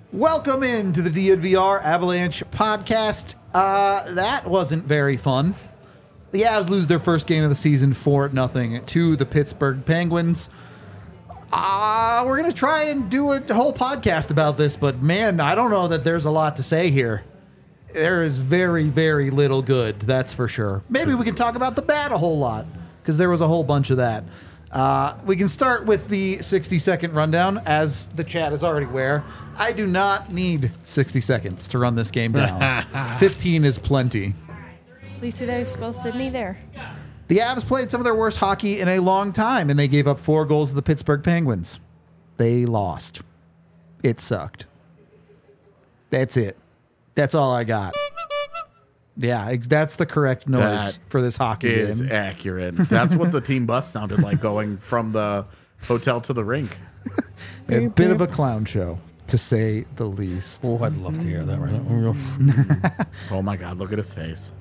Welcome into the DNVR Avalanche podcast. That wasn't very fun. The Avs lose their first game of the season 4-0 to the Pittsburgh Penguins. We're going to try and do a whole podcast about this, but man, I don't know that there's a lot to say here. There is very, very little good, that's for sure. Maybe we can talk about the bad a whole lot, because there was a whole bunch of that. We can start with the 60-second rundown. As the chat is already aware, I do not need 60 seconds to run this game down. 15 is plenty. At least I spell Sydney there. The Avs played some of their worst hockey in a long time, and they gave up 4 goals to the Pittsburgh Penguins. They lost. It sucked. That's it. That's all I got. Yeah, that's the correct noise for this hockey game. Is accurate. That's what the team bus sounded like going from the hotel to the rink. A bit of a clown show, to say the least. Oh, I'd love to hear that right now. Oh my God, look at his face.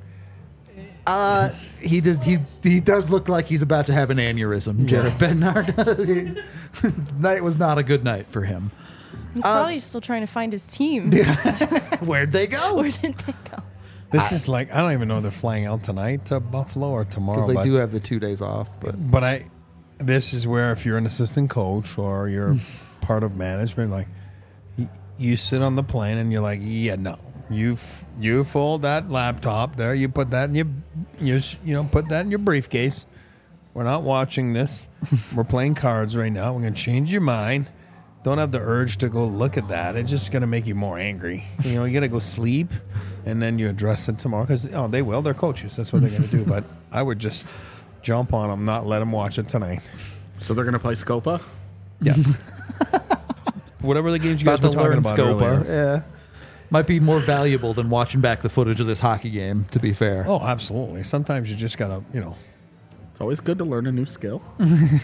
He does look like he's about to have an aneurysm, Jared Bednar. Night was not a good night for him. He's probably still trying to find his team. Where'd they go? Where did they go? This is like, I don't even know if they're flying out tonight to Buffalo or tomorrow. Because they do have the 2 days off. But this is where if you're an assistant coach or you're part of management, like you sit on the plane and you're like, yeah, no. You fold that laptop there. You put that in you put that in your briefcase. We're not watching this. We're playing cards right now. We're gonna change your mind. Don't have the urge to go look at that. It's just gonna make you more angry. You gotta go sleep, and then you address it tomorrow because they will. They're coaches. That's what they're gonna do. But I would just jump on them, not let them watch it tonight. So they're gonna play Scopa. Yeah. Whatever the games you guys were talking about earlier. Yeah. Might be more valuable than watching back the footage of this hockey game, to be fair. Oh, absolutely. Sometimes you just got to, It's always good to learn a new skill. Can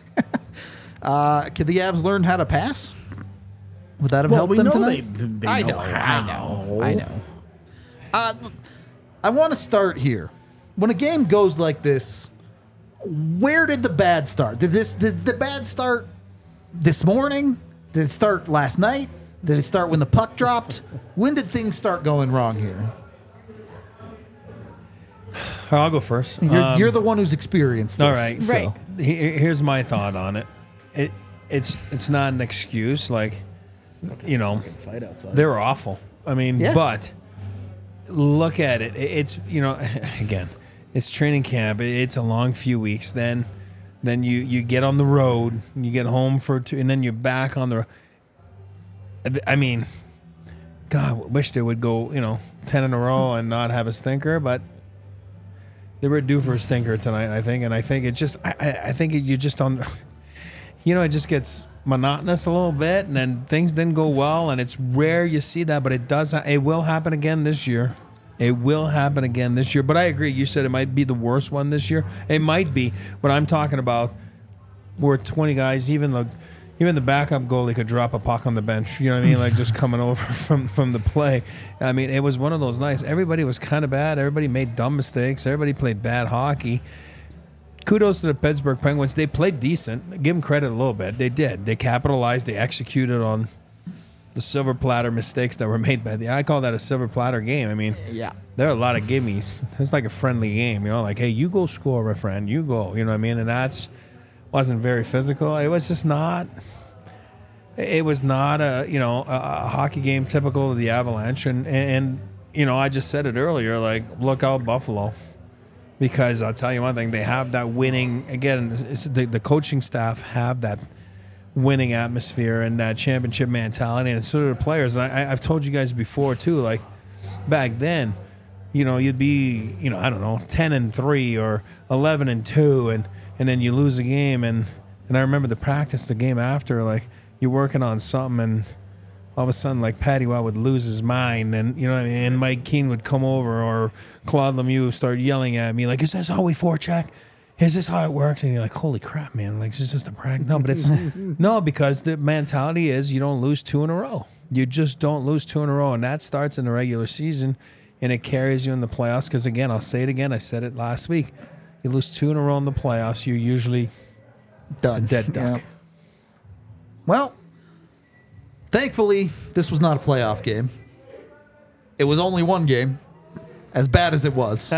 the Avs learn how to pass? Would that have helped them tonight? I know. I know. I want to start here. When a game goes like this, where did the bad start? Did the bad start this morning? Did it start last night? Did it start when the puck dropped? When did things start going wrong here? I'll go first. You're the one who's experienced this. All right. So. Right. Here's my thought on it. It's not an excuse. Like, Fight outside. they're awful. I mean, Yeah. but look at it. It's, again, it's training camp. It's a long few weeks. Then you get on the road. You get home for 2, and then you're back on the road. I mean, God, wish they would go, 10 in a row and not have a stinker, but they were due for a stinker tonight, I think. And I think it just, I think you just on, it just gets monotonous a little bit, and then things didn't go well, and it's rare you see that, but it will happen again this year. It will happen again this year. But I agree. You said it might be the worst one this year. It might be, but I'm talking about we're 20 guys, even the backup goalie could drop a puck on the bench. You know what I mean? Like just coming over from the play. I mean, it was one of those nights. Everybody was kind of bad. Everybody made dumb mistakes. Everybody played bad hockey. Kudos to the Pittsburgh Penguins. They played decent. Give them credit a little bit. They did. They capitalized. They executed on the silver platter mistakes that were made by I call that a silver platter game. I mean, Yeah. there are a lot of gimmies. It's like a friendly game, like, hey, you go score, my friend. You go. You know what I mean? And wasn't very physical. It was just not. It was not a hockey game typical of the Avalanche, and I just said it earlier. Like, look out, Buffalo, because I'll tell you one thing: they have that winning. Again, the coaching staff have that winning atmosphere and that championship mentality, and so do the players. And I've told you guys before too. Like back then, you'd be 10-3 or 11-2, and then you lose a game, and I remember the game after, like, you're working on something, and all of a sudden, like, Patty Watt would lose his mind, and and Mike Keane would come over, or Claude Lemieux start yelling at me, like, is this how we forecheck? Is this how it works? And you're like, holy crap, man, like, this is just a prank. No, but it's no, because the mentality is you don't lose 2 in a row. You just don't lose 2 in a row, and that starts in the regular season, and it carries you in the playoffs, because, again, I'll say it again, I said it last week, you lose 2 in a row in the playoffs, you're usually Done. a dead duck. Yeah. Well, Thankfully, this was not a playoff game. It was only one game, as bad as it was.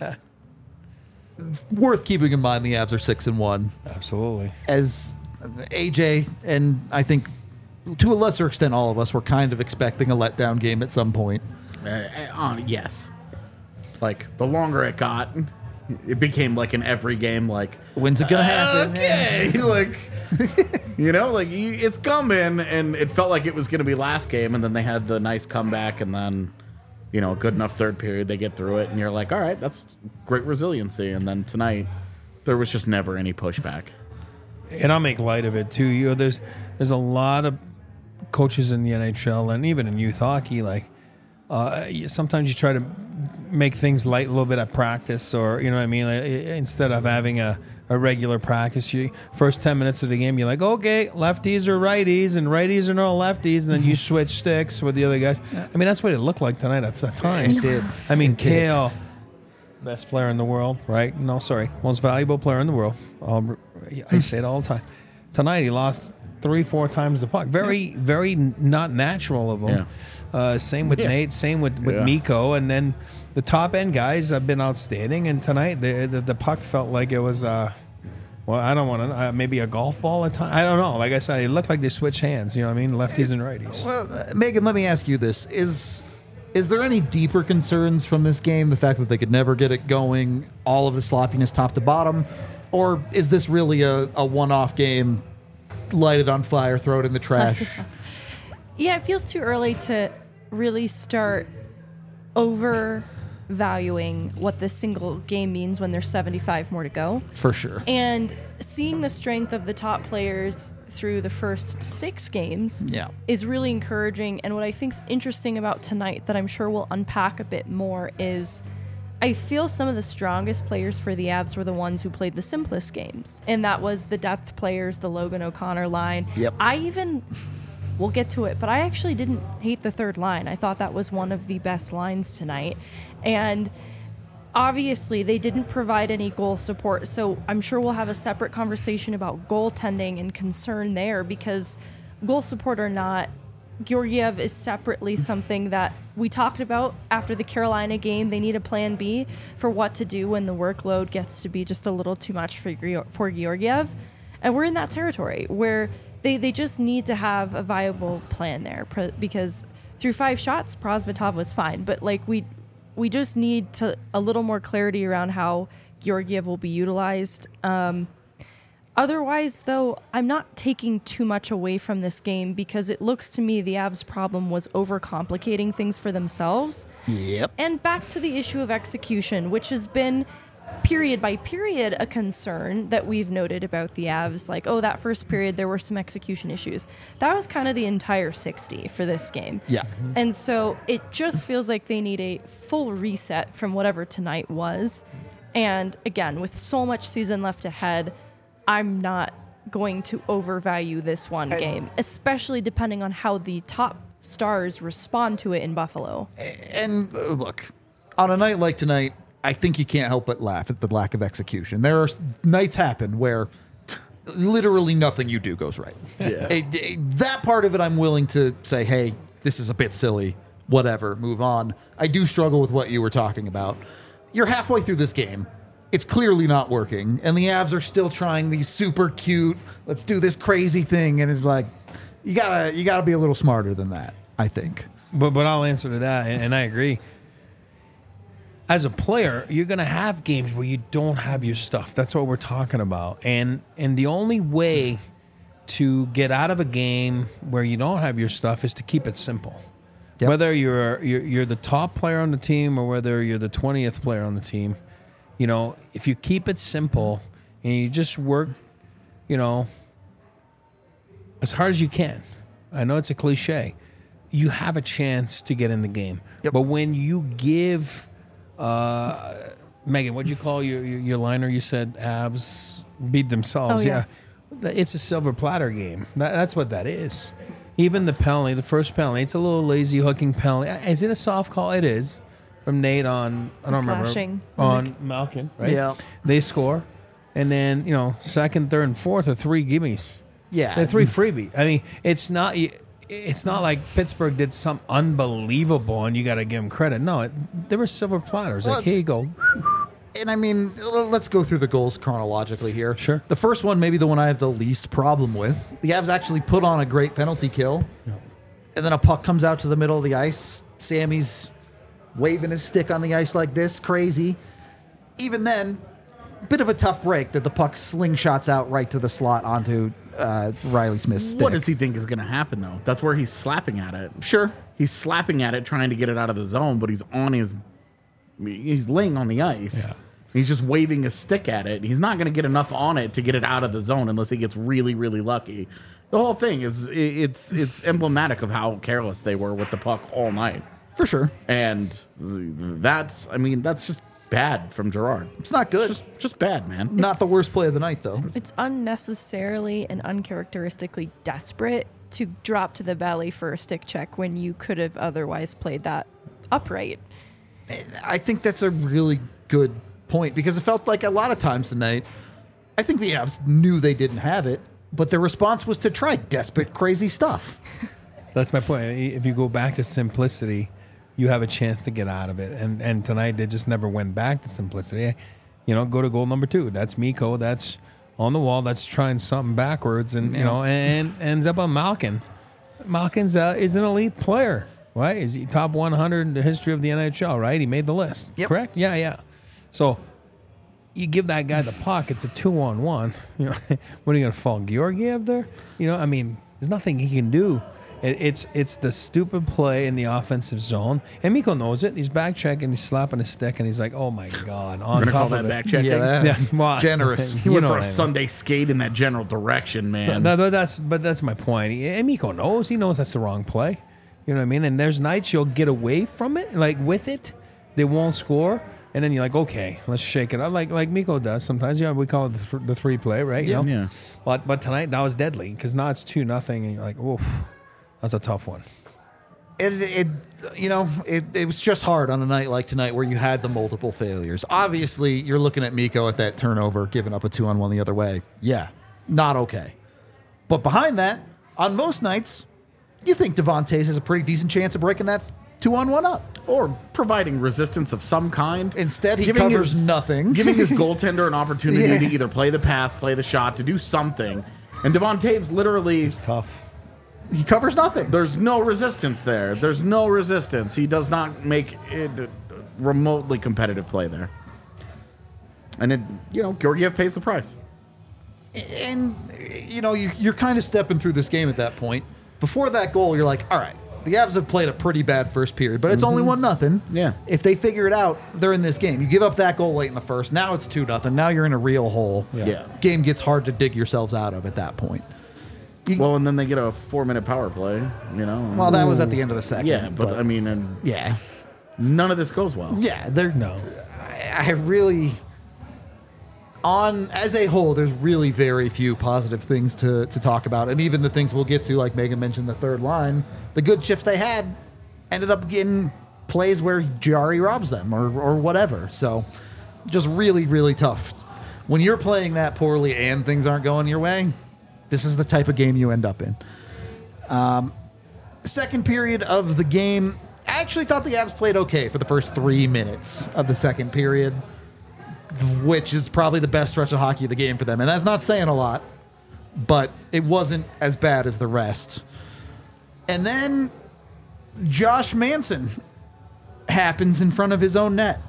Worth keeping in mind the Avs are 6-1. Absolutely. As AJ and I think to a lesser extent all of us were kind of expecting a letdown game at some point. Yes. Like, the longer it got, it became like in every game, like, When's it going to happen? okay. Like, it's coming, and it felt like it was going to be last game, and then they had the nice comeback, and then, a good enough third period, they get through it, and you're like, all right, that's great resiliency. And then tonight, there was just never any pushback. And I'll make light of it too. There's a lot of coaches in the NHL and even in youth hockey. Like sometimes you try to make things light a little bit at practice, or you know what I mean. Like, instead of having a regular practice, you first 10 minutes of the game, you're like, okay, lefties or righties, and righties are no lefties, and then you switch sticks with the other guys. I mean, that's what it looked like tonight at times. It did. I mean, Kale, best player in the world, right? No, sorry, most valuable player in the world. I say it all the time. Tonight he lost 3-4 times the puck. Very, very not natural of him. Yeah. Same with Nate. Same with Mikko. And then the top end guys have been outstanding. And tonight the puck felt like it was. I don't want to. Maybe a golf ball at time. I don't know. Like I said, it looked like they switched hands. You know what I mean? Lefties and righties. Well, Megan, let me ask you this: Is there any deeper concerns from this game? The fact that they could never get it going, all of the sloppiness top to bottom, or is this really a one-off game? Light it on fire, throw it in the trash. Yeah, it feels too early to really start overvaluing what this single game means when there's 75 more to go. For sure. And seeing the strength of the top players through the first 6 games is really encouraging. And what I think is interesting about tonight that I'm sure we'll unpack a bit more is I feel some of the strongest players for the Avs were the ones who played the simplest games. And that was the depth players, the Logan O'Connor line. Yep. We'll get to it, but I actually didn't hate the third line. I thought that was one of the best lines tonight. And obviously they didn't provide any goal support, so I'm sure we'll have a separate conversation about goaltending and concern there, because goal support or not, Georgiev is separately something that we talked about after the Carolina game. They need a plan B for what to do when the workload gets to be just a little too much for Georgiev. And we're in that territory where they just need to have a viable plan there, because through 5 shots, Prosvetov was fine. But like we just need a little more clarity around how Georgiev will be utilized. Otherwise, though, I'm not taking too much away from this game, because it looks to me the Avs' problem was overcomplicating things for themselves. Yep. And back to the issue of execution, which has been period by period a concern that we've noted about the Avs. Like, that first period there were some execution issues. That was kind of the entire 60 for this game. Yeah. And so it just feels like they need a full reset from whatever tonight was. And again, with so much season left ahead, I'm not going to overvalue this one game, especially depending on how the top stars respond to it in Buffalo. And look, on a night like tonight, I think you can't help but laugh at the lack of execution. There are nights happen where literally nothing you do goes right. Yeah. That part of it, I'm willing to say, hey, this is a bit silly, whatever, move on. I do struggle with what you were talking about. You're halfway through this game. It's clearly not working, and the Avs are still trying these super cute, let's do this crazy thing, and it's like, you gotta be a little smarter than that, I think. But I'll answer to that, and I agree. As a player, you're going to have games where you don't have your stuff. That's what we're talking about. And the only way to get out of a game where you don't have your stuff is to keep it simple. Yep. Whether you're the top player on the team or whether you're the 20th player on the team, if you keep it simple and you just work, as hard as you can. I know it's a cliche. You have a chance to get in the game. Yep. But when you give... Megan, what'd you call your liner? You said Avs beat themselves. Oh, yeah. It's a silver platter game. That's what that is. Even the penalty, the first penalty, it's a little lazy hooking penalty. Is it a soft call? It is. From Nate on, I don't remember. On Malkin, right? Yeah. They score. And then, second, third, and fourth are 3 gimmies. Yeah. They're 3 freebie. I mean, it's not... it's not like Pittsburgh did some unbelievable and you got to give them credit. No, there were silver platters. Well, Like, here you go. And I mean, let's go through the goals chronologically here. Sure. The first one, maybe the one I have the least problem with. The Avs actually put on a great penalty kill. And then a puck comes out to the middle of the ice. Sammy's waving his stick on the ice like this, crazy. Even then, bit of a tough break that the puck slingshots out right to the slot onto Riley Smith's stick. What does he think is going to happen, though? That's where he's slapping at it. Sure. He's slapping at it, trying to get it out of the zone, but he's laying on the ice. Yeah. He's just waving a stick at it. He's not going to get enough on it to get it out of the zone unless he gets really, really lucky. The whole thing is it's emblematic of how careless they were with the puck all night. For sure. And that's just bad from Gerard. It's not good. It's just bad, man. Not the worst play of the night, though. It's unnecessarily and uncharacteristically desperate to drop to the belly for a stick check when you could have otherwise played that upright. I think that's a really good point because it felt like a lot of times tonight, I think the Avs knew they didn't have it, but their response was to try desperate, crazy stuff. That's my point. If you go back to simplicity, you have a chance to get out of it. And tonight they just never went back to simplicity. You know, go to goal number 2. That's Mikko. That's on the wall. That's trying something backwards, and you know, and ends up on Malkin. Malkin's is an elite player, right? Is he top 100 in the history of the NHL? Right? He made the list. Yep. Correct? Yeah. So you give that guy the puck. It's a 2-on-1. You know, what are you going to fall Georgiev there? You know, I mean, there's nothing he can do. It's the stupid play in the offensive zone, and Mikko knows it. He's back checking, he's slapping his stick, and he's like, "Oh my god!" On We're gonna top call of that it. back checking. Yeah, Well, generous. He you went know for what a I mean. Sunday skate in that general direction, man. No, that's my point. And Mikko knows. He knows that's the wrong play. You know what I mean? And there's nights you'll get away from it, like with it, they won't score, and then you're like, okay, let's shake it up, like Mikko does sometimes. Yeah, we call it the 3 play, right? You know? Yeah. But tonight that was deadly because now it's 2-0, and you're like, oof, that's a tough one. It was just hard on a night like tonight where you had the multiple failures. Obviously, you're looking at Mikko at that turnover, giving up a 2-on-1 the other way. Yeah, not okay. But behind that, on most nights, you think Devontae has a pretty decent chance of breaking that 2-on-1 up. Or providing resistance of some kind. Instead, he Giving covers nothing. Giving his goaltender an opportunity Yeah. to either play the pass, play the shot, to do something. And Devontae's literally... It's tough. He covers nothing. There's no resistance there. There's no resistance. He does not make it a remotely competitive play there. And Georgiev pays the price. And, you're kind of stepping through this game at that point. Before that goal, you're like, all right, the Avs have played a pretty bad first period, but it's only 1-0. Yeah. If they figure it out, they're in this game. You give up that goal late in the first. Now it's 2-0. Now you're in a real hole. Yeah. Game gets hard to dig yourselves out of at that point. Well, and then they get a 4-minute power play, Well, that was at the end of the second. Yeah, but I mean, and yeah. none of this goes well. Yeah, they're No. I really as a whole, there's really very few positive things to talk about. And even the things we'll get to, like Megan mentioned, the third line, the good shifts they had ended up getting plays where Jari robs them or whatever. So just really, really tough. When you're playing that poorly and things aren't going your way, this is the type of game you end up in. Second period of the game, I actually thought the Avs played okay for the first 3 minutes of the second period, which is probably the best stretch of hockey of the game for them. And that's not saying a lot, but it wasn't as bad as the rest. And then Josh Manson happens in front of his own net.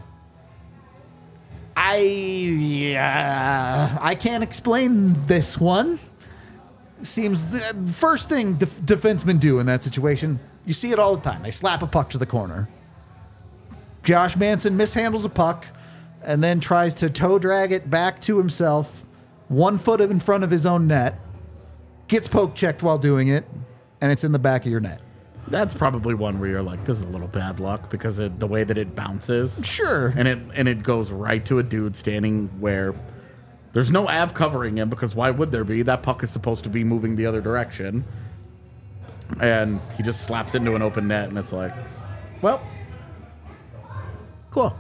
I can't explain this one. Seems the first thing defensemen do in that situation, you see it all the time. They slap a puck to the corner. Josh Manson mishandles a puck and then tries to toe drag it back to himself, 1 foot in front of his own net, gets poke checked while doing it, and it's in the back of your net. That's probably one where you're like, this is a little bad luck because of the way that it bounces. Sure. And it goes right to a dude standing where there's no Av covering him because why would there be? That puck is supposed to be moving the other direction. And he just slaps into an open net and it's like, well, cool.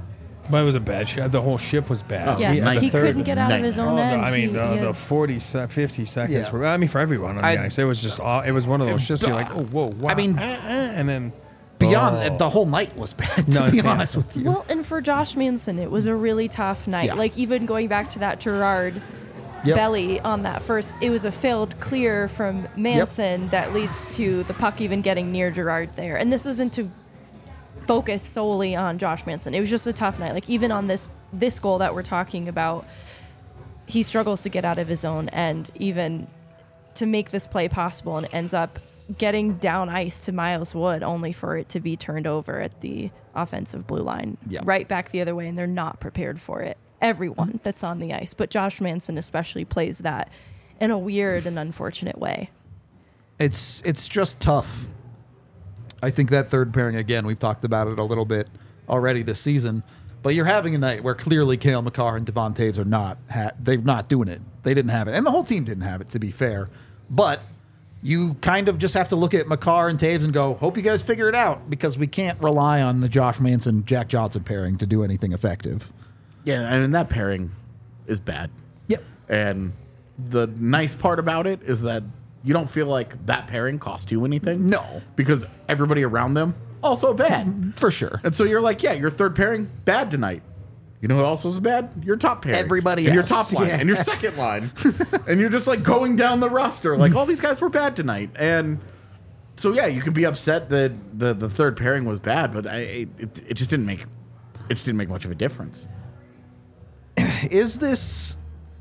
But it was a bad ship. The whole ship was bad. Oh, Yes, nice. he The third- couldn't get out of his own end. I mean, He the had- 50 seconds Yeah. were, I mean, for everyone on the ice, it was just, it was one of those ships you're like, oh, whoa, wow. I mean, and then. Beyond the whole night was bad, to No, be yeah. honest with you. Well, and for Josh Manson, it was a really tough night. Yeah. Like, even going back to that Gerard Yep. belly on that first, it was a failed clear from Manson that leads to the puck even getting near Gerard there. And this isn't to focus solely on Josh Manson. It was just a tough night. Like, even on this goal that we're talking about, he struggles to get out of his own end, even to make this play possible, and ends up getting down ice to Miles Wood only for it to be turned over at the offensive blue line, Yeah. right back the other way, and they're not prepared for it. Everyone that's on the ice, but Josh Manson especially plays that in a weird and unfortunate way. It's just tough. I think that third pairing, again, we've talked about it a little bit already this season, but you're having a night where clearly Cale Makar and Devon Taves are not they're not doing it. They didn't have it, and the whole team didn't have it, to be fair. But you kind of just have to look at Makar and Taves and go, hope you guys figure it out, because we can't rely on the Josh Manson Jack Johnson pairing to do anything effective. Yeah, I mean, that pairing is bad. Yep. And the nice part about it is that you don't feel like that pairing cost you anything. No. Because everybody around them, also bad. For sure. And so you're like, yeah, your third pairing, bad tonight. You know who else was bad? Your top pairing. Everybody and your else. top line. Yeah. And your second line. And you're just like going down the roster. Like, all these guys were bad tonight. And so, yeah, you could be upset that the third pairing was bad, but it just didn't make much of a difference. Is this...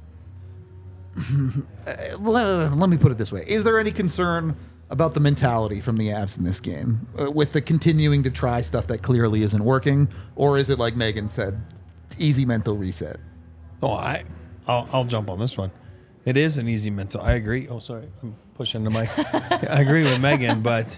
let me put it this way. Is there any concern about the mentality from the Avs in this game with the continuing to try stuff that clearly isn't working? Or is it, like Megan said, easy mental reset? Oh, I'll jump on this one. It is an easy mental. I agree. Oh, sorry, I'm pushing the mic. I agree with Megan, but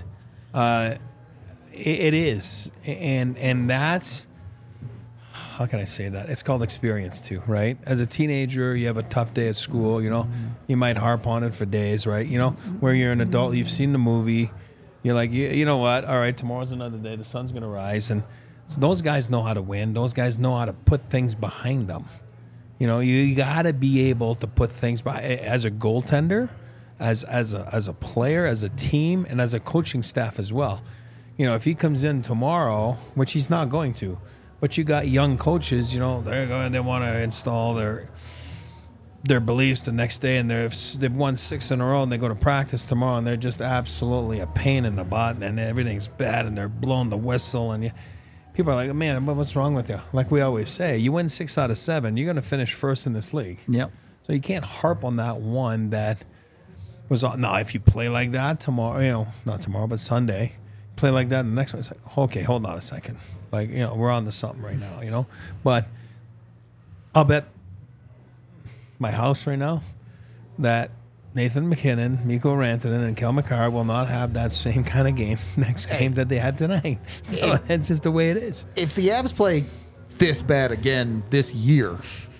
it is, and that's, how can I say that? It's called experience too, right? As a teenager, you have a tough day at school. You know, you might harp on it for days, right? You know, where you're an adult, you've seen the movie. You're like, you know what? All right, tomorrow's another day. The sun's gonna rise, and so those guys know how to win. Those guys know how to put things behind them. You know, you got to be able to put things by as a goaltender, as a player, as a team, and as a coaching staff as well. You know, if he comes in tomorrow, which he's not going to, but you got young coaches, you know, they want to install their beliefs the next day, and they've won 6 in a row, and they go to practice tomorrow, and they're just absolutely a pain in the butt, and everything's bad, and they're blowing the whistle, and people are like, man, what's wrong with you? Like we always say, you win 6 out of 7, you're going to finish first in this league. Yep. So you can't harp on that one that was on. Now, if you play like that tomorrow, you know, not tomorrow, but Sunday, play like that, and the next one, it's like, okay, hold on a second. Like, you know, we're on to something right now, you know? But I'll bet my house right now that Nathan McKinnon, Mikko Rantanen, and Cale Makar will not have that same kind of game next game that they had tonight. So that's just the way it is. If the Avs play this bad again this year,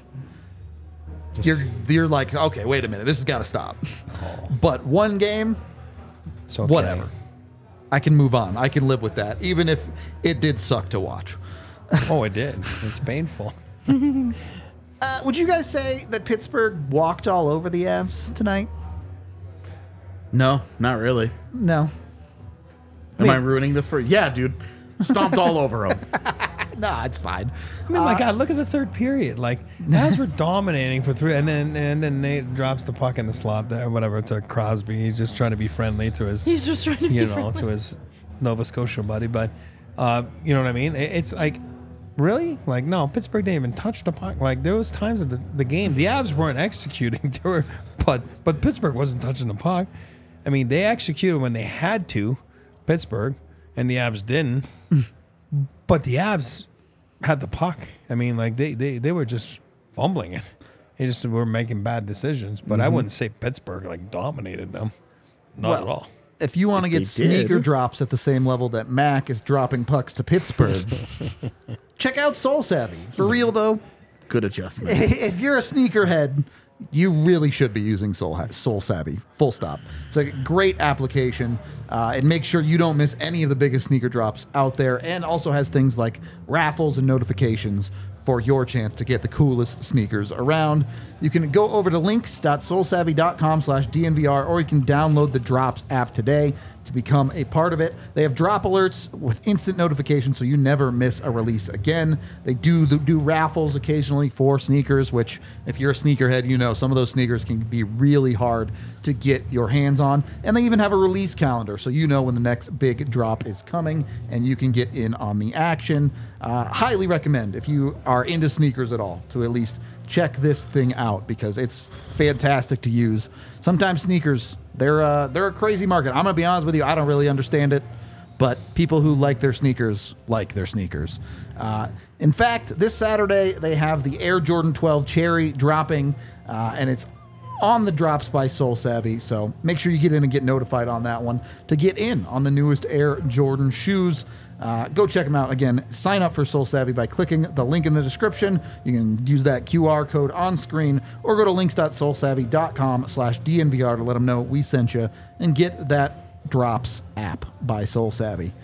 you're like, okay, wait a minute, this has got to stop. But one game, It's okay. whatever. I can move on. I can live with that, even if it did suck to watch. Oh, it did. It's painful. Would you guys say that Pittsburgh walked all over the Avs tonight? No, not really. No. Am I ruining this for you? Yeah, dude. Stomped all over them. Nah, it's fine. I mean, my God, look at the third period. Like, Avs were dominating for 3, and then Nate drops the puck in the slot there, whatever, to Crosby. He's just trying to be friendly to his, He's just trying to be you know, friendly. to his Nova Scotia buddy. But, you know what I mean? It's like, really? Like, no, Pittsburgh didn't even touch the puck. Like, there was times of the game, the Avs weren't executing. But Pittsburgh wasn't touching the puck. I mean, they executed when they had to, Pittsburgh, and the Avs didn't. But the Avs had the puck. I mean, like, they were just fumbling it. They just were making bad decisions. But I wouldn't say Pittsburgh, like, dominated them. Not at all. If you want to If get they sneaker did. drops at the same level that Mac is dropping pucks to Pittsburgh, check out Soul Savvy. For real, though, Good adjustment. if you're a sneakerhead, you really should be using Soul Savvy. Full stop. It's a great application. It makes sure you don't miss any of the biggest sneaker drops out there, and also has things like raffles and notifications for your chance to get the coolest sneakers around. You can go over to links.soulsavvy.com/DNVR, or you can download the Drops app today to become a part of it. They have drop alerts with instant notifications, so you never miss a release again. They do raffles occasionally for sneakers, which if you're a sneakerhead, you know some of those sneakers can be really hard to get your hands on. And they even have a release calendar, so you know when the next big drop is coming and you can get in on the action. Highly recommend, if you are into sneakers at all, to at least check this thing out because it's fantastic to use. Sometimes sneakers, they're a crazy market. I'm gonna be honest with you, I don't really understand it, but people who like their sneakers like their sneakers. In fact, this Saturday they have the Air Jordan 12 Cherry dropping, and it's on the Drops by Soul Savvy. So make sure you get in and get notified on that one to get in on the newest Air Jordan shoes. Go check them out. Again, sign up for Soul Savvy by clicking the link in the description. You can use that QR code on screen or go to links.soulsavvy.com/DNVR to let them know we sent you and get that Drops app by Soul Savvy.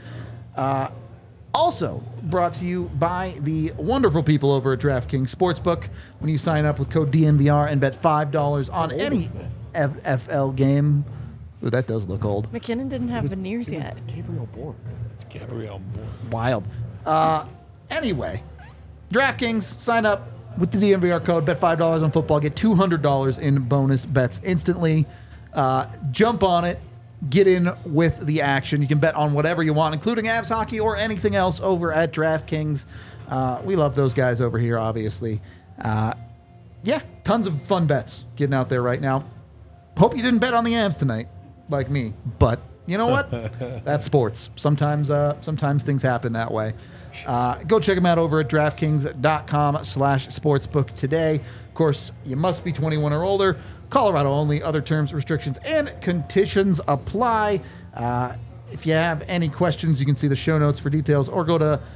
Also brought to you by the wonderful people over at DraftKings Sportsbook. When you sign up with code DNVR and bet $5 on any FFL game. Ooh, that does look old. McKinnon didn't have veneers yet. Gabriel Bourne. It's Gabriel Bourne. Wild. Anyway, DraftKings, sign up with the DNVR code, bet $5 on football, get $200 in bonus bets instantly. Jump on it, get in with the action. You can bet on whatever you want, including Avs hockey or anything else over at DraftKings. We love those guys over here, obviously. Yeah, tons of fun bets getting out there right now. Hope you didn't bet on the Avs tonight, like me, but you know what? That's sports. Sometimes things happen that way. Go check them out over at DraftKings.com/sportsbook today. Of course, you must be 21 or older. Colorado only. Other terms, restrictions, and conditions apply. If you have any questions, you can see the show notes for details, or go to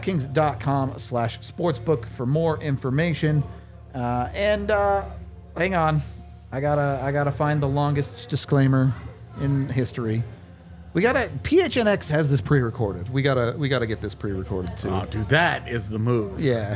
DraftKings.com/sportsbook for more information. Hang on. I gotta find the longest disclaimer in history. PHNX has this pre-recorded. We gotta get this pre-recorded too. Oh, dude, that is the move. Yeah.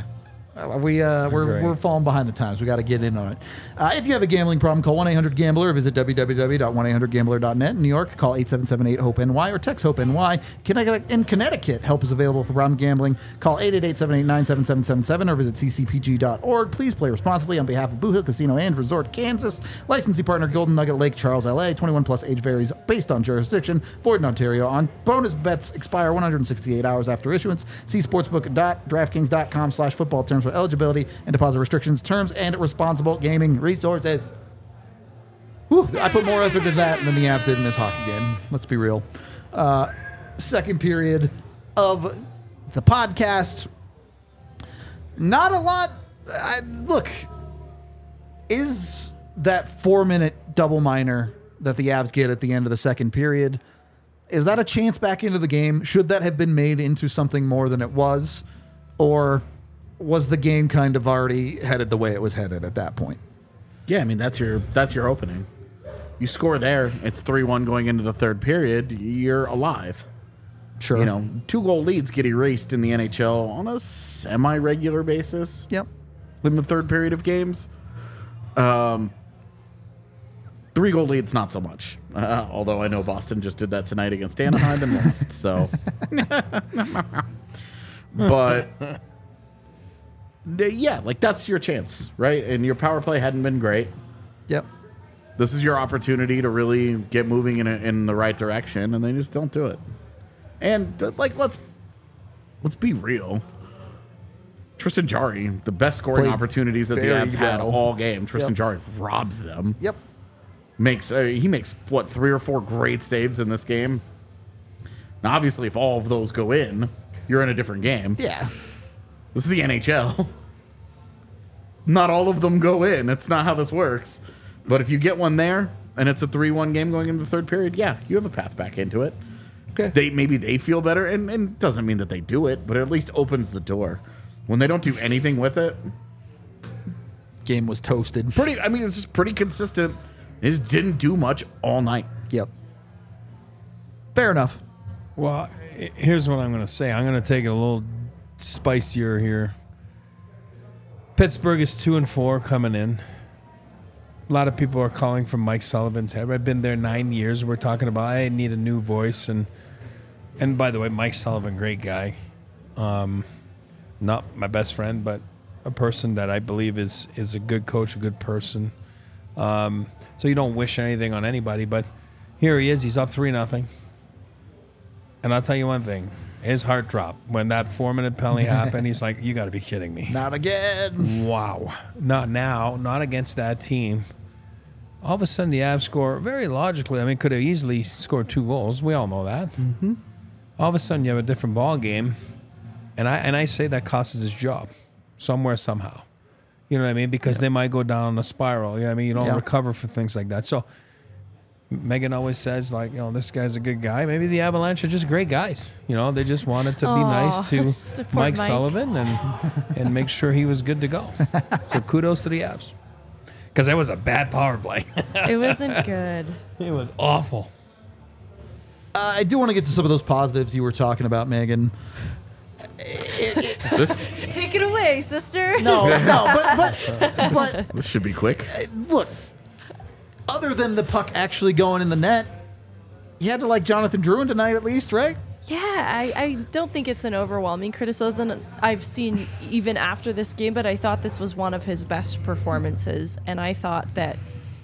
We're falling behind the times. We got to get in on it. If you have a gambling problem, call 1-800-GAMBLER or visit www.1800gambler.net. In New York, call 877-8-HOPE-NY or text HOPE-NY. In Connecticut, help is available for problem gambling. Call 888-789-7777 or visit ccpg.org. Please play responsibly on behalf of Boo Hill Casino and Resort, Kansas. Licensee partner Golden Nugget Lake Charles, LA. 21 plus, age varies based on jurisdiction. Void in Ontario. On bonus bets expire 168 hours after issuance. See sportsbook.draftkings.com/football terms for eligibility and deposit restrictions, terms, and responsible gaming resources. Whew, I put more effort into that than the Avs did in this hockey game. Let's be real. Second period of the podcast. Not a lot. Look, is that 4-minute double minor that the Avs get at the end of the second period, is that a chance back into the game? Should that have been made into something more than it was? Or was the game kind of already headed the way it was headed at that point? Yeah, I mean, that's your opening. You score there, it's 3-1 going into the third period, you're alive. Sure. 2-goal leads get erased in the NHL on a semi-regular basis. Yep. In the third period of games. 3-goal leads, not so much. Although I know Boston just did that tonight against Anaheim and lost, so. But yeah, like that's your chance, right? And your power play hadn't been great. Yep. This is your opportunity to really get moving in the right direction, and they just don't do it. And let's be real. Tristan Jarry, the best scoring Played opportunities that the very Avs had well. all game. Tristan Yep. Jarry robs them. Yep. He makes 3 or 4 great saves in this game. Now, obviously, if all of those go in, you're in a different game. Yeah. This is the NHL. Not all of them go in. That's not how this works. But if you get one there, and it's a 3-1 game going into the third period, yeah, you have a path back into it. Okay. Maybe they feel better, and it doesn't mean that they do it, but it at least opens the door. When they don't do anything with it, Game was toasted. it's just pretty consistent. It just didn't do much all night. Yep. Fair enough. Well, here's what I'm going to say. I'm going to take it a little spicier here. Pittsburgh is 2-4 coming in. A lot of people are calling for Mike Sullivan's head. I've been there 9 years. We're talking about I need a new voice, and by the way, Mike Sullivan, great guy. Not my best friend, but a person that I believe is a good coach, a good person. So you don't wish anything on anybody, but here he is. He's up 3-0. And I'll tell you one thing. His heart dropped when that 4-minute penalty happened. He's like, you got to be kidding me. Not again. Wow. Not now. Not against that team. All of a sudden, the Avs score very logically. I mean, could have easily scored 2 goals. We all know that. Mm-hmm. All of a sudden, you have a different ball game. And I say that costs his job somewhere, somehow. You know what I mean? Because they might go down a spiral. You know what I mean? You don't recover for things like that. So Megan always says, like, this guy's a good guy. Maybe the Avalanche are just great guys. They just wanted to be nice to Mike Sullivan and make sure he was good to go. So kudos to the Avs. Because that was a bad power play. It wasn't good. It was awful. I do want to get to some of those positives you were talking about, Megan. Take it away, sister. No, but This should be quick. Look, other than the puck actually going in the net, you had to like Jonathan Drouin tonight at least, right? Yeah, I don't think it's an overwhelming criticism I've seen even after this game, but I thought this was one of his best performances, and I thought that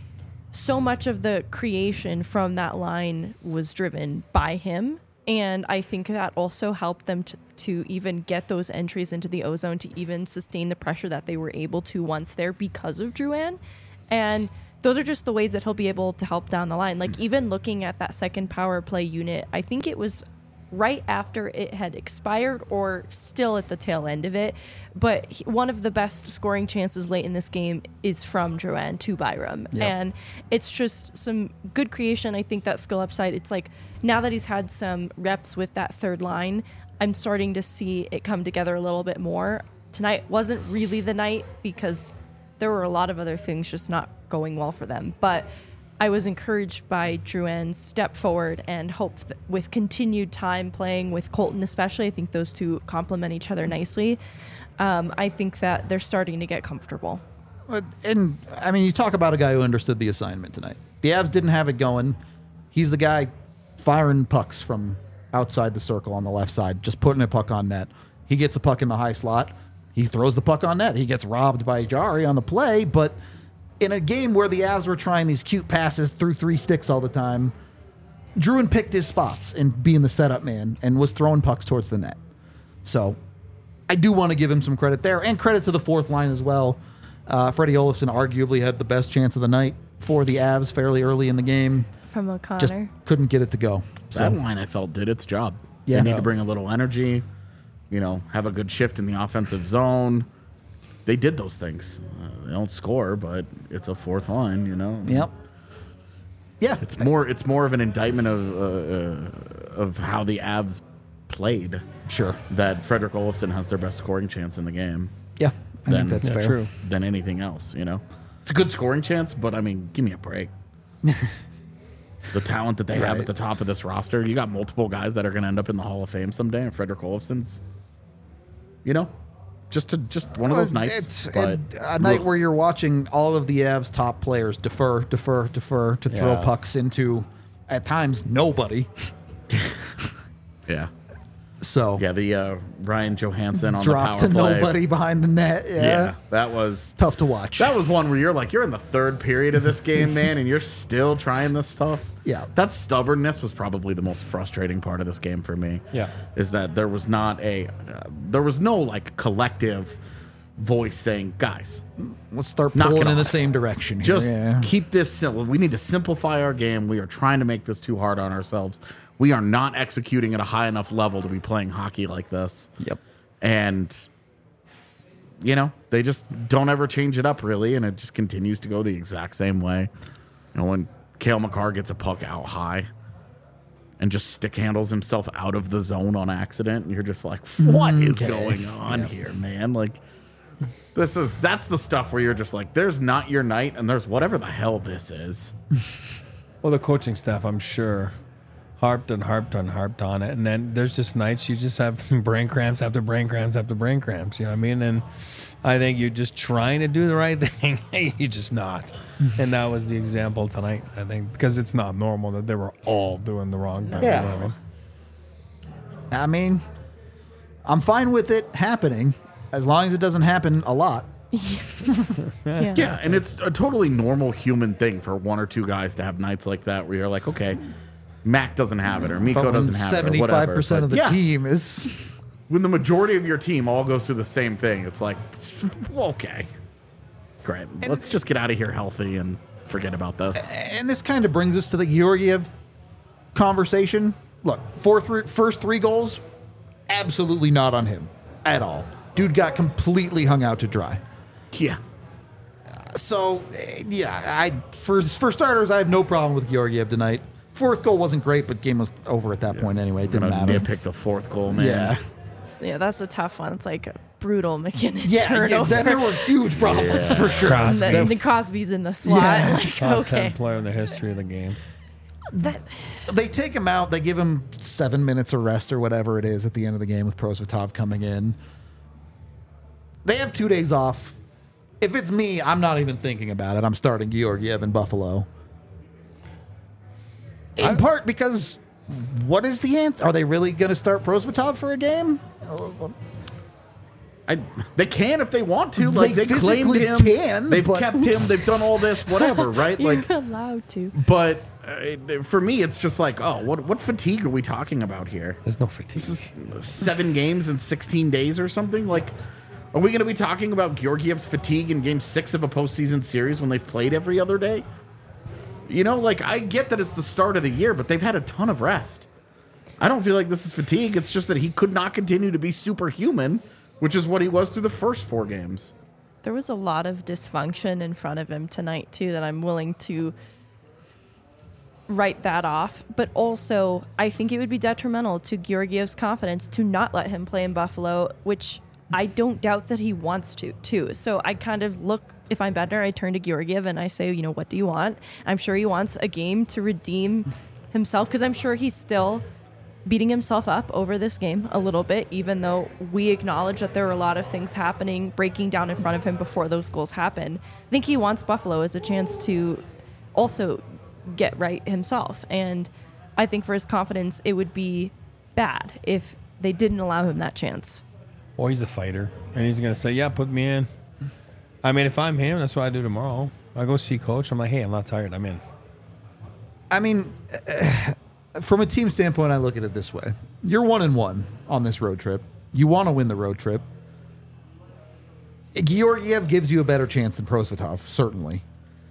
so much of the creation from that line was driven by him, and I think that also helped them to even get those entries into the O-zone, to even sustain the pressure that they were able to once there because of Drouin, and those are just the ways that he'll be able to help down the line. Like, even looking at that second power play unit, I think it was right after it had expired or still at the tail end of it. But one of the best scoring chances late in this game is from Drouin to Byram. Yep. And it's just some good creation. I think that skill upside, it's like now that he's had some reps with that third line, I'm starting to see it come together a little bit more. Tonight wasn't really the night because there were a lot of other things just not going well for them. But I was encouraged by Drouin's step forward and hope that with continued time playing with Colton especially, I think those two complement each other nicely. I think that they're starting to get comfortable. And, I mean, you talk about a guy who understood the assignment tonight. The Avs didn't have it going. He's the guy firing pucks from outside the circle on the left side, just putting a puck on net. He gets the puck in the high slot. He throws the puck on net. He gets robbed by Jari on the play, but in a game where the Avs were trying these cute passes through 3 sticks all the time, Drouin picked his spots in being the setup man and was throwing pucks towards the net. So I do want to give him some credit there, and credit to the fourth line as well. Freddie Olofsson arguably had the best chance of the night for the Avs fairly early in the game. From O'Connor. Just couldn't get it to go. That line, I felt, did its job. Yeah. They need to bring a little energy, have a good shift in the offensive zone. They did those things. They don't score, but it's a fourth line, Yep. Yeah. It's more of an indictment of how the Avs played. Sure. That Frederick Olofsson has their best scoring chance in the game. Yeah. I think that's fair. True. Than anything else, It's a good scoring chance, but I mean, give me a break. The talent that they have at the top of this roster, you got multiple guys that are going to end up in the Hall of Fame someday, and Frederick Olofsson's, just one of those nights. It's but a night where you're watching all of the Avs' top players defer to throw pucks into, at times, nobody. Yeah. So Yeah, the Ryan Johansson on drop the to power play. nobody behind the net. Yeah, that was Tough to watch. That was one where you're in the third period of this game, man, and you're still trying this stuff. Yeah. That stubbornness was probably the most frustrating part of this game for me. Yeah. Is that there was no like collective voice saying, guys, Let's start knock pulling it in the off. same direction here. just Yeah. keep this simple. We need to simplify our game. We are trying to make this too hard on ourselves. We are not executing at a high enough level to be playing hockey like this. Yep. And, they just don't ever change it up, really, and it just continues to go the exact same way. When Cale Makar gets a puck out high and just stick handles himself out of the zone on accident, and you're just like, what is going on here, man? Like, that's the stuff where you're just like, there's not your night, and there's whatever the hell this is. Well, the coaching staff, I'm sure, harped on it. And then there's just nights you just have brain cramps after brain cramps after brain cramps. You know what I mean? And I think you're just trying to do the right thing. You're just not. And that was the example tonight, I think, because it's not normal that they were all doing the wrong thing. Yeah. You know what I mean? I mean, I'm fine with it happening as long as it doesn't happen a lot. Yeah. Yeah, and it's a totally normal human thing for one or two guys to have nights like that where you're like, okay, Mac doesn't have it or Miko But when doesn't have it or whatever. 75% of the But yeah, team is... when the majority of your team all goes through the same thing, it's like, okay, great. Let's just get out of here healthy and forget about this. And this kind of brings us to the Georgiev conversation. Look, first 3 goals, absolutely not on him at all. Dude got completely hung out to dry. Yeah. So, yeah, for starters, I have no problem with Georgiev tonight. 4th goal wasn't great, but game was over at that point anyway. It didn't matter. Nitpick the 4th goal, man. Yeah. Yeah, that's a tough one. It's like a brutal McKinnon Yeah, turnover. then there were huge problems for sure. And Crosby. then the Crosby's in the slot. Yeah. Like, Top okay. 10 player in the history of the game. That, They take him out. They give him 7 minutes of rest or whatever it is at the end of the game with Prosvetov coming in. They have 2 days off. If it's me, I'm not even thinking about it. I'm starting Georgiev in Buffalo. In part because what is the answer? Are they really going to start Prosvetov for a game? They can if they want to. Like They they claimed physically him. can, They've but- kept him. They've done all this, whatever, right? you're Like, allowed to. but for me, it's just like, oh, what fatigue are we talking about here? There's no fatigue. This is 7 games in 16 days or something. Like, are we going to be talking about Georgiev's fatigue in Game 6 of a postseason series when they've played every other day? You know, like, I get that it's the start of the year, but they've had a ton of rest. I don't feel like this is fatigue. It's just that he could not continue to be superhuman, which is what he was through the first 4 games. There was a lot of dysfunction in front of him tonight, too, that I'm willing to write that off. But also, I think it would be detrimental to Georgiev's confidence to not let him play in Buffalo, which I don't doubt that he wants to, too. So I kind of look, if I'm Bednar, I turn to Georgiev and I say, you know, what do you want? I'm sure he wants a game to redeem himself, because I'm sure he's still beating himself up over this game a little bit, even though we acknowledge that there were a lot of things happening, breaking down in front of him before those goals happened. I think he wants Buffalo as a chance to also get right himself. And I think for his confidence, it would be bad if they didn't allow him that chance. Well, he's a fighter, and he's going to say, yeah, put me in. I mean, if I'm him, that's what I do tomorrow. I go see coach. I'm like, hey, I'm not tired. I'm in. I mean, from a team standpoint, I look at it this way. You're 1-1 on this road trip. You want to win the road trip. Georgiev gives you a better chance than Prosvetov, certainly.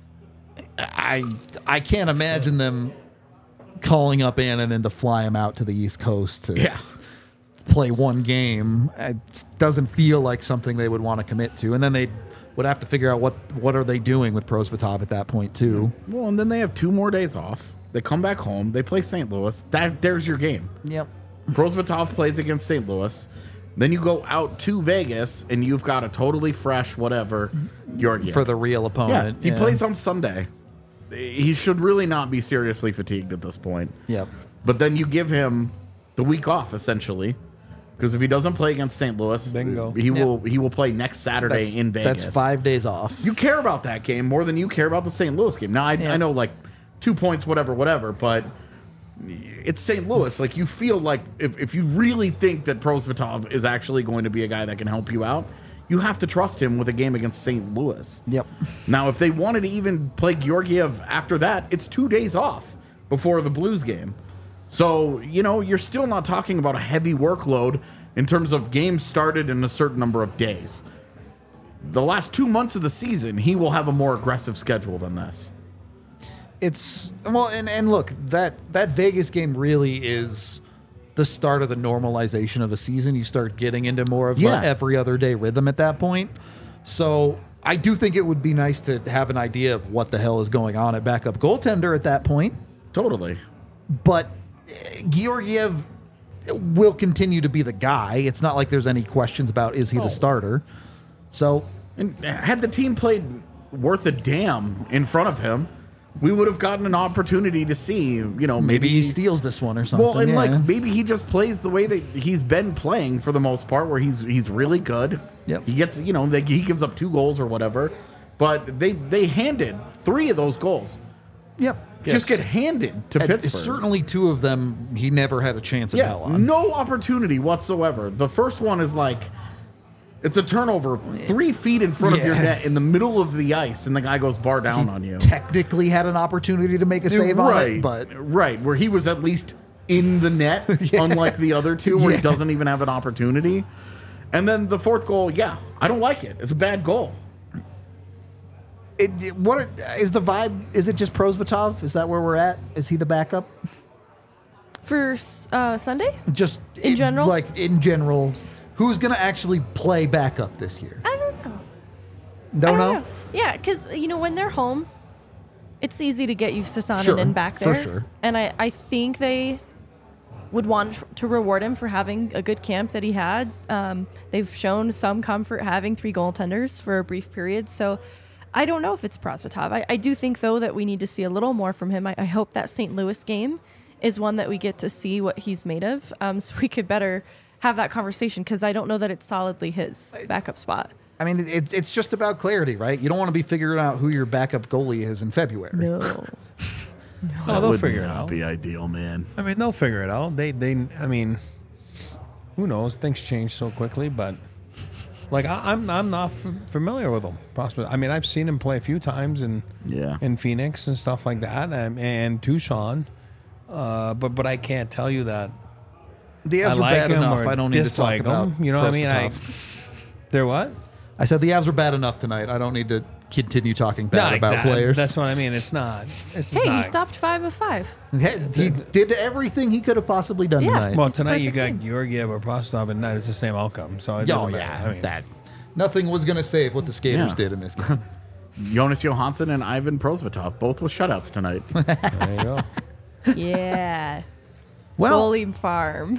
I can't imagine them calling up Annunen to fly him out to the East Coast to play one game. It doesn't feel like something they would want to commit to. And then they would have to figure out what are they doing with Prosvetov at that point, too. Well, and then they have 2 more days off. They come back home. They play St. Louis. There's your game. Yep. Prosvetov plays against St. Louis. Then you go out to Vegas, and you've got a totally fresh whatever Georgiev. For the real Yeah, opponent. he plays on Sunday. He should really not be seriously fatigued at this point. Yep. But then you give him the week off, essentially. Because if he doesn't play against St. Louis, Bingo. he will play next Saturday in Vegas. That's 5 days off. You care about that game more than you care about the St. Louis game. Now, I know, like, 2 points, whatever, but it's St. Louis. Like, you feel like if you really think that Prosvetov is actually going to be a guy that can help you out, you have to trust him with a game against St. Louis. Yep. Now, if they wanted to even play Georgiev after that, it's 2 days off before the Blues game. So, you know, you're still not talking about a heavy workload in terms of games started in a certain number of days. The last 2 months of the season, he will have a more aggressive schedule than this. It's well, and look, that Vegas game really is the start of the normalization of a season. You start getting into more of Yeah. a every other day rhythm at that point. So I do think it would be nice to have an idea of what the hell is going on at backup goaltender at that point. Totally. But Georgiev will continue to be the guy. It's not like there's any questions about is he the starter. So And had the team played worth a damn in front of him, we would have gotten an opportunity to see, you know, maybe maybe he steals this one or something. well, and yeah. like maybe he just plays the way that he's been playing for the most part, where he's really good. Yep. He gets, he gives up 2 goals or whatever, but they handed 3 of those goals. Yep. Just get handed to And Pittsburgh. certainly 2 of them he never had a chance in hell on. no opportunity whatsoever. The first one is like, it's a turnover 3 feet in front of your Yeah. net in the middle of the ice, and the guy goes bar down on you. Technically had an opportunity to make a save on it, but Right, where he was at least in the net, unlike the other 2 where he doesn't even have an opportunity. And then the 4th goal, I don't like it. It's a bad goal. what is the vibe? Is it just Prosvetov? Is that where we're at? Is he the backup? For Sunday? Just In general? Like in general, who's going to actually play backup this year? I don't know. Don't I know. don't know. Yeah, because, when they're home, it's easy to get used to Sonnen Sure, in back for there. sure. And I think they would want to reward him for having a good camp that he had. They've shown some comfort having 3 goaltenders for a brief period. So I don't know if it's Prosvetov. I do think, though, that we need to see a little more from him. I hope that St. Louis game is one that we get to see what he's made of. So we could better have that conversation, because I don't know that it's solidly his backup spot. I mean, it's just about clarity, right? You don't want to be figuring out who your backup goalie is in February. No. Oh, they'll figure it out. Be ideal, man. I mean, they'll figure it out. I mean, who knows? Things change so quickly, but like I'm not familiar with him. I mean, I've seen him play a few times in Phoenix and stuff like that, and Tucson, but I can't tell you that The Avs I were like bad him enough. or I don't need to talk dislike about him. You know what I mean? Prosvetov. They're what? I said the Avs were bad enough tonight. I don't need to continue talking bad about exactly. players. That's what I mean. It's not. This is Hey, not. he stopped 5 of 5. He did everything he could have possibly done Yeah. tonight. Well, It's a tonight you perfect got Georgiev or Prosvetov, and it's the same outcome. So it doesn't matter. I mean, Nothing was going to save what the skaters Yeah. did in this game. Jonas Johansson and Ivan Prosvetov, both with shutouts tonight. there you go. Yeah. Well, Goalie Farm.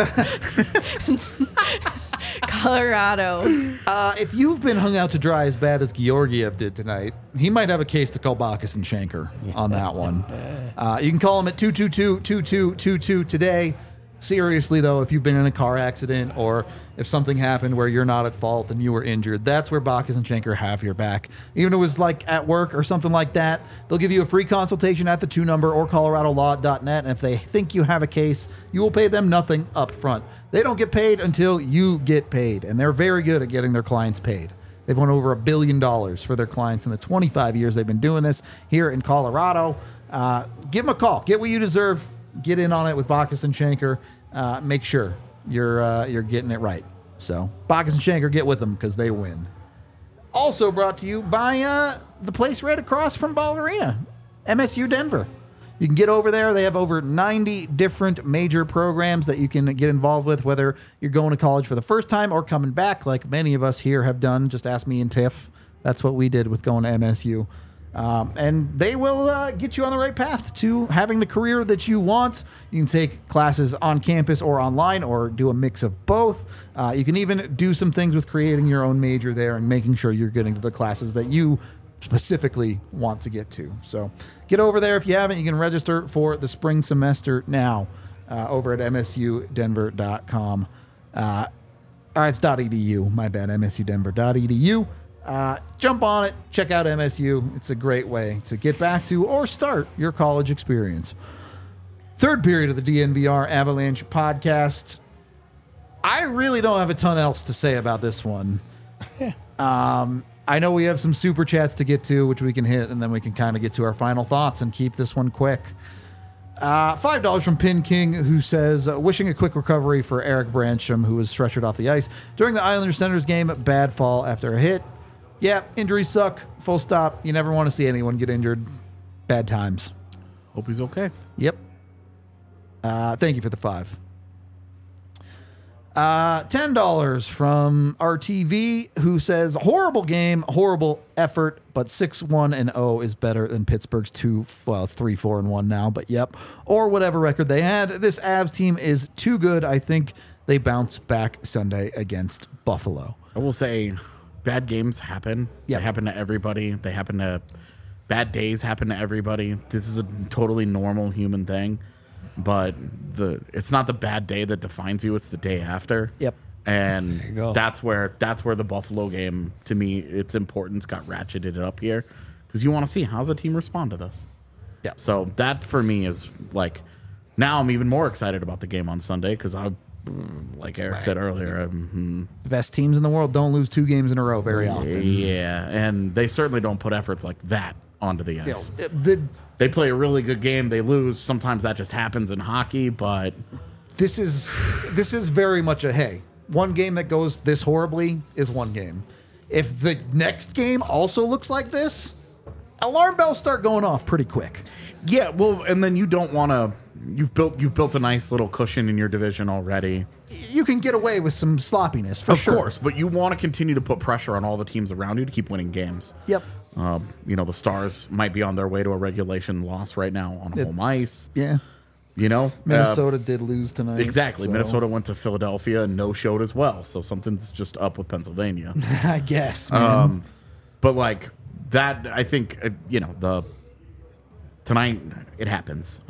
Colorado. if you've been hung out to dry as bad as Georgiev did tonight, he might have a case to call Bacchus and Shanker on that one. You can call him at 222-2222 today. Seriously, though, if you've been in a car accident or if something happened where you're not at fault and you were injured, that's where Bacchus and Shanker have your back. Even if it was like at work or something like that, they'll give you a free consultation at the 2 number or coloradolaw.net. And if they think you have a case, you will pay them nothing up front. They don't get paid until you get paid, and they're very good at getting their clients paid. They've won over $1 billion for their clients in the 25 years they've been doing this here in Colorado. Give them a call. Get what you deserve. Get in on it with Bacchus and Shanker. Make sure you're getting it right. So Bacchus and Shanker, get with them because they win. Also brought to you by the place right across from Ball Arena, MSU Denver. You can get over there. They have over 90 different major programs that you can get involved with, whether you're going to college for the first time or coming back, like many of us here have done. Just ask me and Tiff. That's what we did with going to MSU. And they will get you on the right path to having the career that you want. You can take classes on campus or online or do a mix of both. You can even do some things with creating your own major there and making sure you're getting to the classes that you specifically want to get to. So get over there if you haven't. You can register for the spring semester now over at msudenver.com. All right, it's .edu. My bad, msudenver.edu. Jump on it. Check out MSU. It's a great way to get back to or start your college experience. Third period of the DNVR Avalanche podcast. I really don't have a ton else to say about this one. I know we have some super chats to get to, which we can hit, and then we can kind of get to our final thoughts and keep this one quick. $5 from Pin King, who says, wishing a quick recovery for Eric Brancham, who was stretchered off the ice during the Islanders Senators game. Bad fall after a hit. Yeah, injuries suck. Full stop. You never want to see anyone get injured. Bad times. Hope he's okay. Yep. Thank you for the 5. $10 from RTV, who says, horrible game, horrible effort, but 6-1-0 is better than Pittsburgh's 3-4-1 now, but yep. Or whatever record they had. This Avs team is too good. I think they bounce back Sunday against Buffalo. I will say, bad games happen. Yeah. They happen to everybody. Bad days happen to everybody. This is a totally normal human thing. But it's not the bad day that defines you. It's the day after. Yep. And go. that's where the Buffalo game, to me, its importance got ratcheted up here, because you want to see how's the team respond to this. Yeah. So that for me is like, now I'm even more excited about the game on Sunday, because I, like Eric said earlier, The best teams in the world don't lose 2 games in a row very often. yeah, and they certainly don't put efforts like that onto the You know, ice. the They play a really good game, they lose. Sometimes that just happens in hockey, but this is very much a hey, one game that goes this horribly is one game. If the next game also looks like this, alarm bells start going off pretty quick. yeah, well, and then you don't want to. You've built a nice little cushion in your division already. You can get away with some sloppiness for Of sure. course, but you want to continue to put pressure on all the teams around you to keep winning games. Yep. You know, the Stars might be on their way to a regulation loss right now on home ice. Yeah. You know, Minnesota did lose tonight. exactly. so- Minnesota went to Philadelphia and no showed as well. So something's just up with Pennsylvania. I guess, man. But like that, I think you know tonight it happens.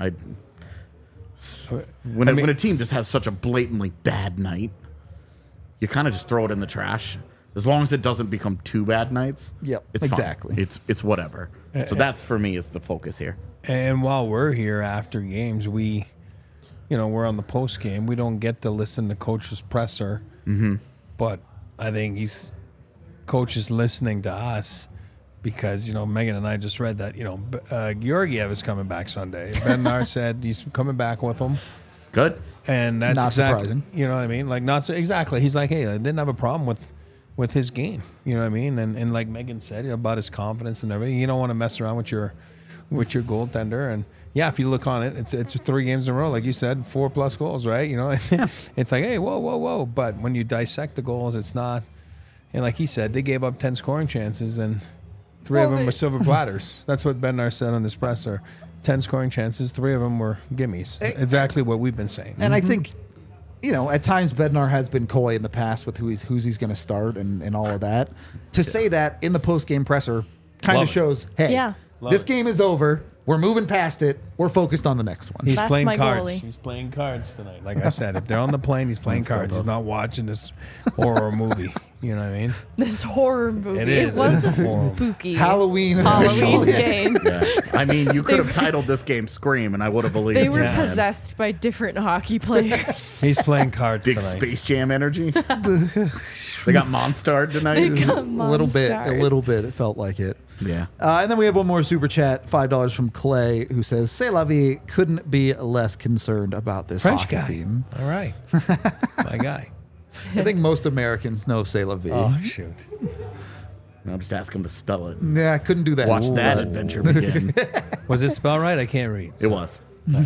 When a team just has such a blatantly bad night, you kind of just throw it in the trash. As long as it doesn't become 2 bad nights. Yep, it's fine. exactly. It's whatever. So that's for me is the focus here. And while we're here after games, we're on the post game. We don't get to listen to coach's presser, but I think coach is listening to us because Megan and I just read that Georgiev is coming back Sunday. Bednar said he's coming back with them, Good. and that's Not exactly surprising. you know what I mean. Like not so exactly. He's like, hey, I didn't have a problem with his game. You know what I mean? And like Megan said about his confidence and everything, you don't want to mess around with your goaltender. And yeah, if you look on it, it's 3 games in a row, like you said, 4+ goals, right? It's like, hey, whoa. But when you dissect the goals, it's not. And like he said, they gave up 10 scoring chances, and 3 of them were silver platters. That's what Bednar said on this presser. 10 scoring chances, 3 of them were gimmies. Exactly what we've been saying. And I think, at times Bednar has been coy in the past with who's he's going to start and all of that. To say that in the post-game presser kind Love of it. shows, hey, Yeah. this game is over. We're moving past it. We're focused on the next one. He's That's playing my cards. goalie. He's playing cards tonight. Like I said, if they're on the plane, he's playing cards. He's not watching this horror movie. You know what I mean? This horror movie. It is. was a It's horrible. spooky Halloween Halloween official. game. Yeah. I mean, you could They have titled this game "Scream" and I would have believed. They were you, man. possessed by different hockey players. He's playing cards Big tonight. Space Jam energy. They got Monstard tonight. A little bit. It felt like it. Yeah. And then we have one more super chat, $5 from Clay, who says, "C'est la vie, couldn't be less concerned about this French hockey guy. team." All right. My guy. I think most Americans know "C'est la vie." Oh, shoot. I'll just ask him to spell it. Yeah, I couldn't do that. Watch that But- adventure begin. Was it spelled right? I can't read. It was.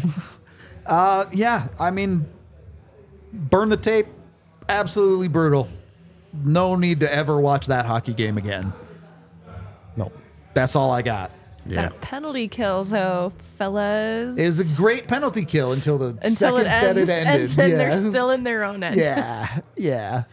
Yeah, I mean, burn the tape. Absolutely brutal. No need to ever watch that hockey game again. No. That's all I got. Yeah. That penalty kill, though, fellas. It was a great penalty kill until the until second it ends, that it ended. and then yeah. they're still in their own end. Yeah.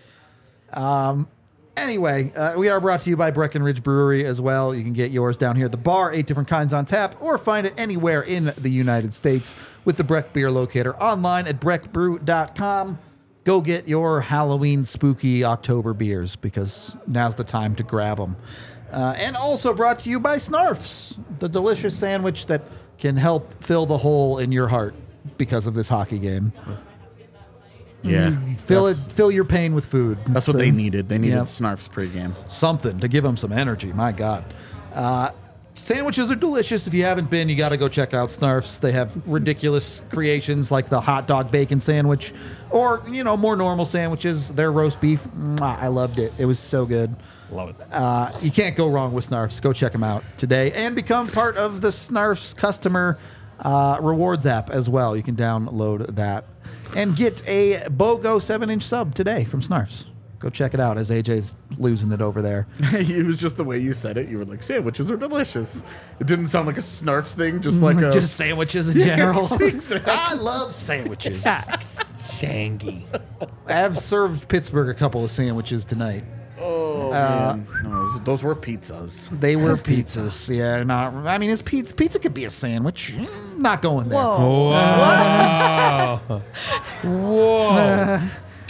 Anyway, we are brought to you by Breckenridge Brewery as well. You can get yours down here at the bar, 8 different kinds on tap, or find it anywhere in the United States with the Breck Beer Locator online at breckbrew.com. Go get your Halloween spooky October beers because now's the time to grab them. And also brought to you by Snarfs, the delicious sandwich that can help fill the hole in your heart because of this hockey game. Yeah. Fill your pain with food. That's what So- they needed. They needed Yep. Snarf's pregame. Something to give them some energy. My God. Sandwiches are delicious. If you haven't been, you got to go check out Snarf's. They have ridiculous creations like the hot dog bacon sandwich or, more normal sandwiches. Their roast beef, I loved it. It was so good. Love it. You can't go wrong with Snarf's. Go check them out today and become part of the Snarf's customer rewards app as well. You can download that and get a BOGO 7-inch sub today from Snarf's. Go check it out as AJ's losing it over there. It was just the way you said it. You were like, sandwiches are delicious. It didn't sound like a Snarf's thing, just like a... Just sandwiches in general. exactly. I love sandwiches. Facts. Shangy. I have served Pittsburgh a couple of sandwiches tonight. Oh, man. No, those were pizzas. They were pizzas. Yeah, is pizza could be a sandwich. Not going there. Whoa. Whoa. Whoa.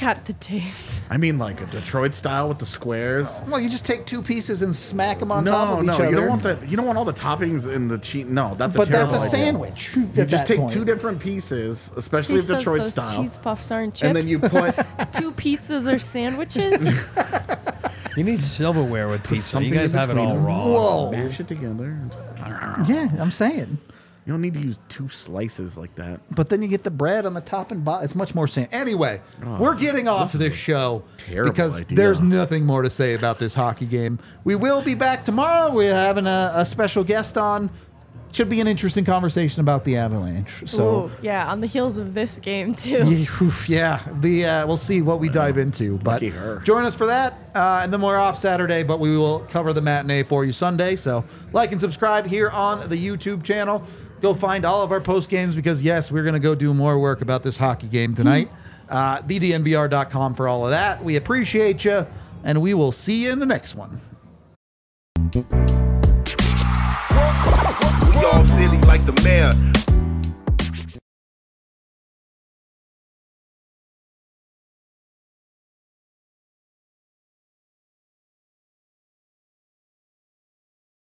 Got the tape. I mean, like a Detroit style with the squares. Well, you just take two pieces and smack them on top of each No, other. you don't want that. You don't want all the toppings in the cheese. No, that's a But terrible that's a idea. sandwich. You just take two different pieces, especially He if says Detroit those style, cheese puffs aren't chips. and then you put two pizzas or sandwiches. You need silverware with pizza. You something guys in have it all between them. wrong. Whoa. mash it together. Yeah, I'm saying. You don't need to use two slices like that. But then you get the bread on the top and bottom. It's much more sand. Anyway, we're getting off this is this show terrible because idea. there's nothing more to say about this hockey game. We will be back tomorrow. We're having a special guest on. Should be an interesting conversation about the Avalanche. So, Ooh, yeah, on the heels of this game too. we'll see what we dive into. But Lucky her. join us for that. And then we're off Saturday, but we will cover the matinee for you Sunday. So like and subscribe here on the YouTube channel. Go find all of our post games because, yes, we're going to go do more work about this hockey game tonight. TheDNVR.com for all of that. We appreciate you, and we will see you in the next one. We all silly like the mayor.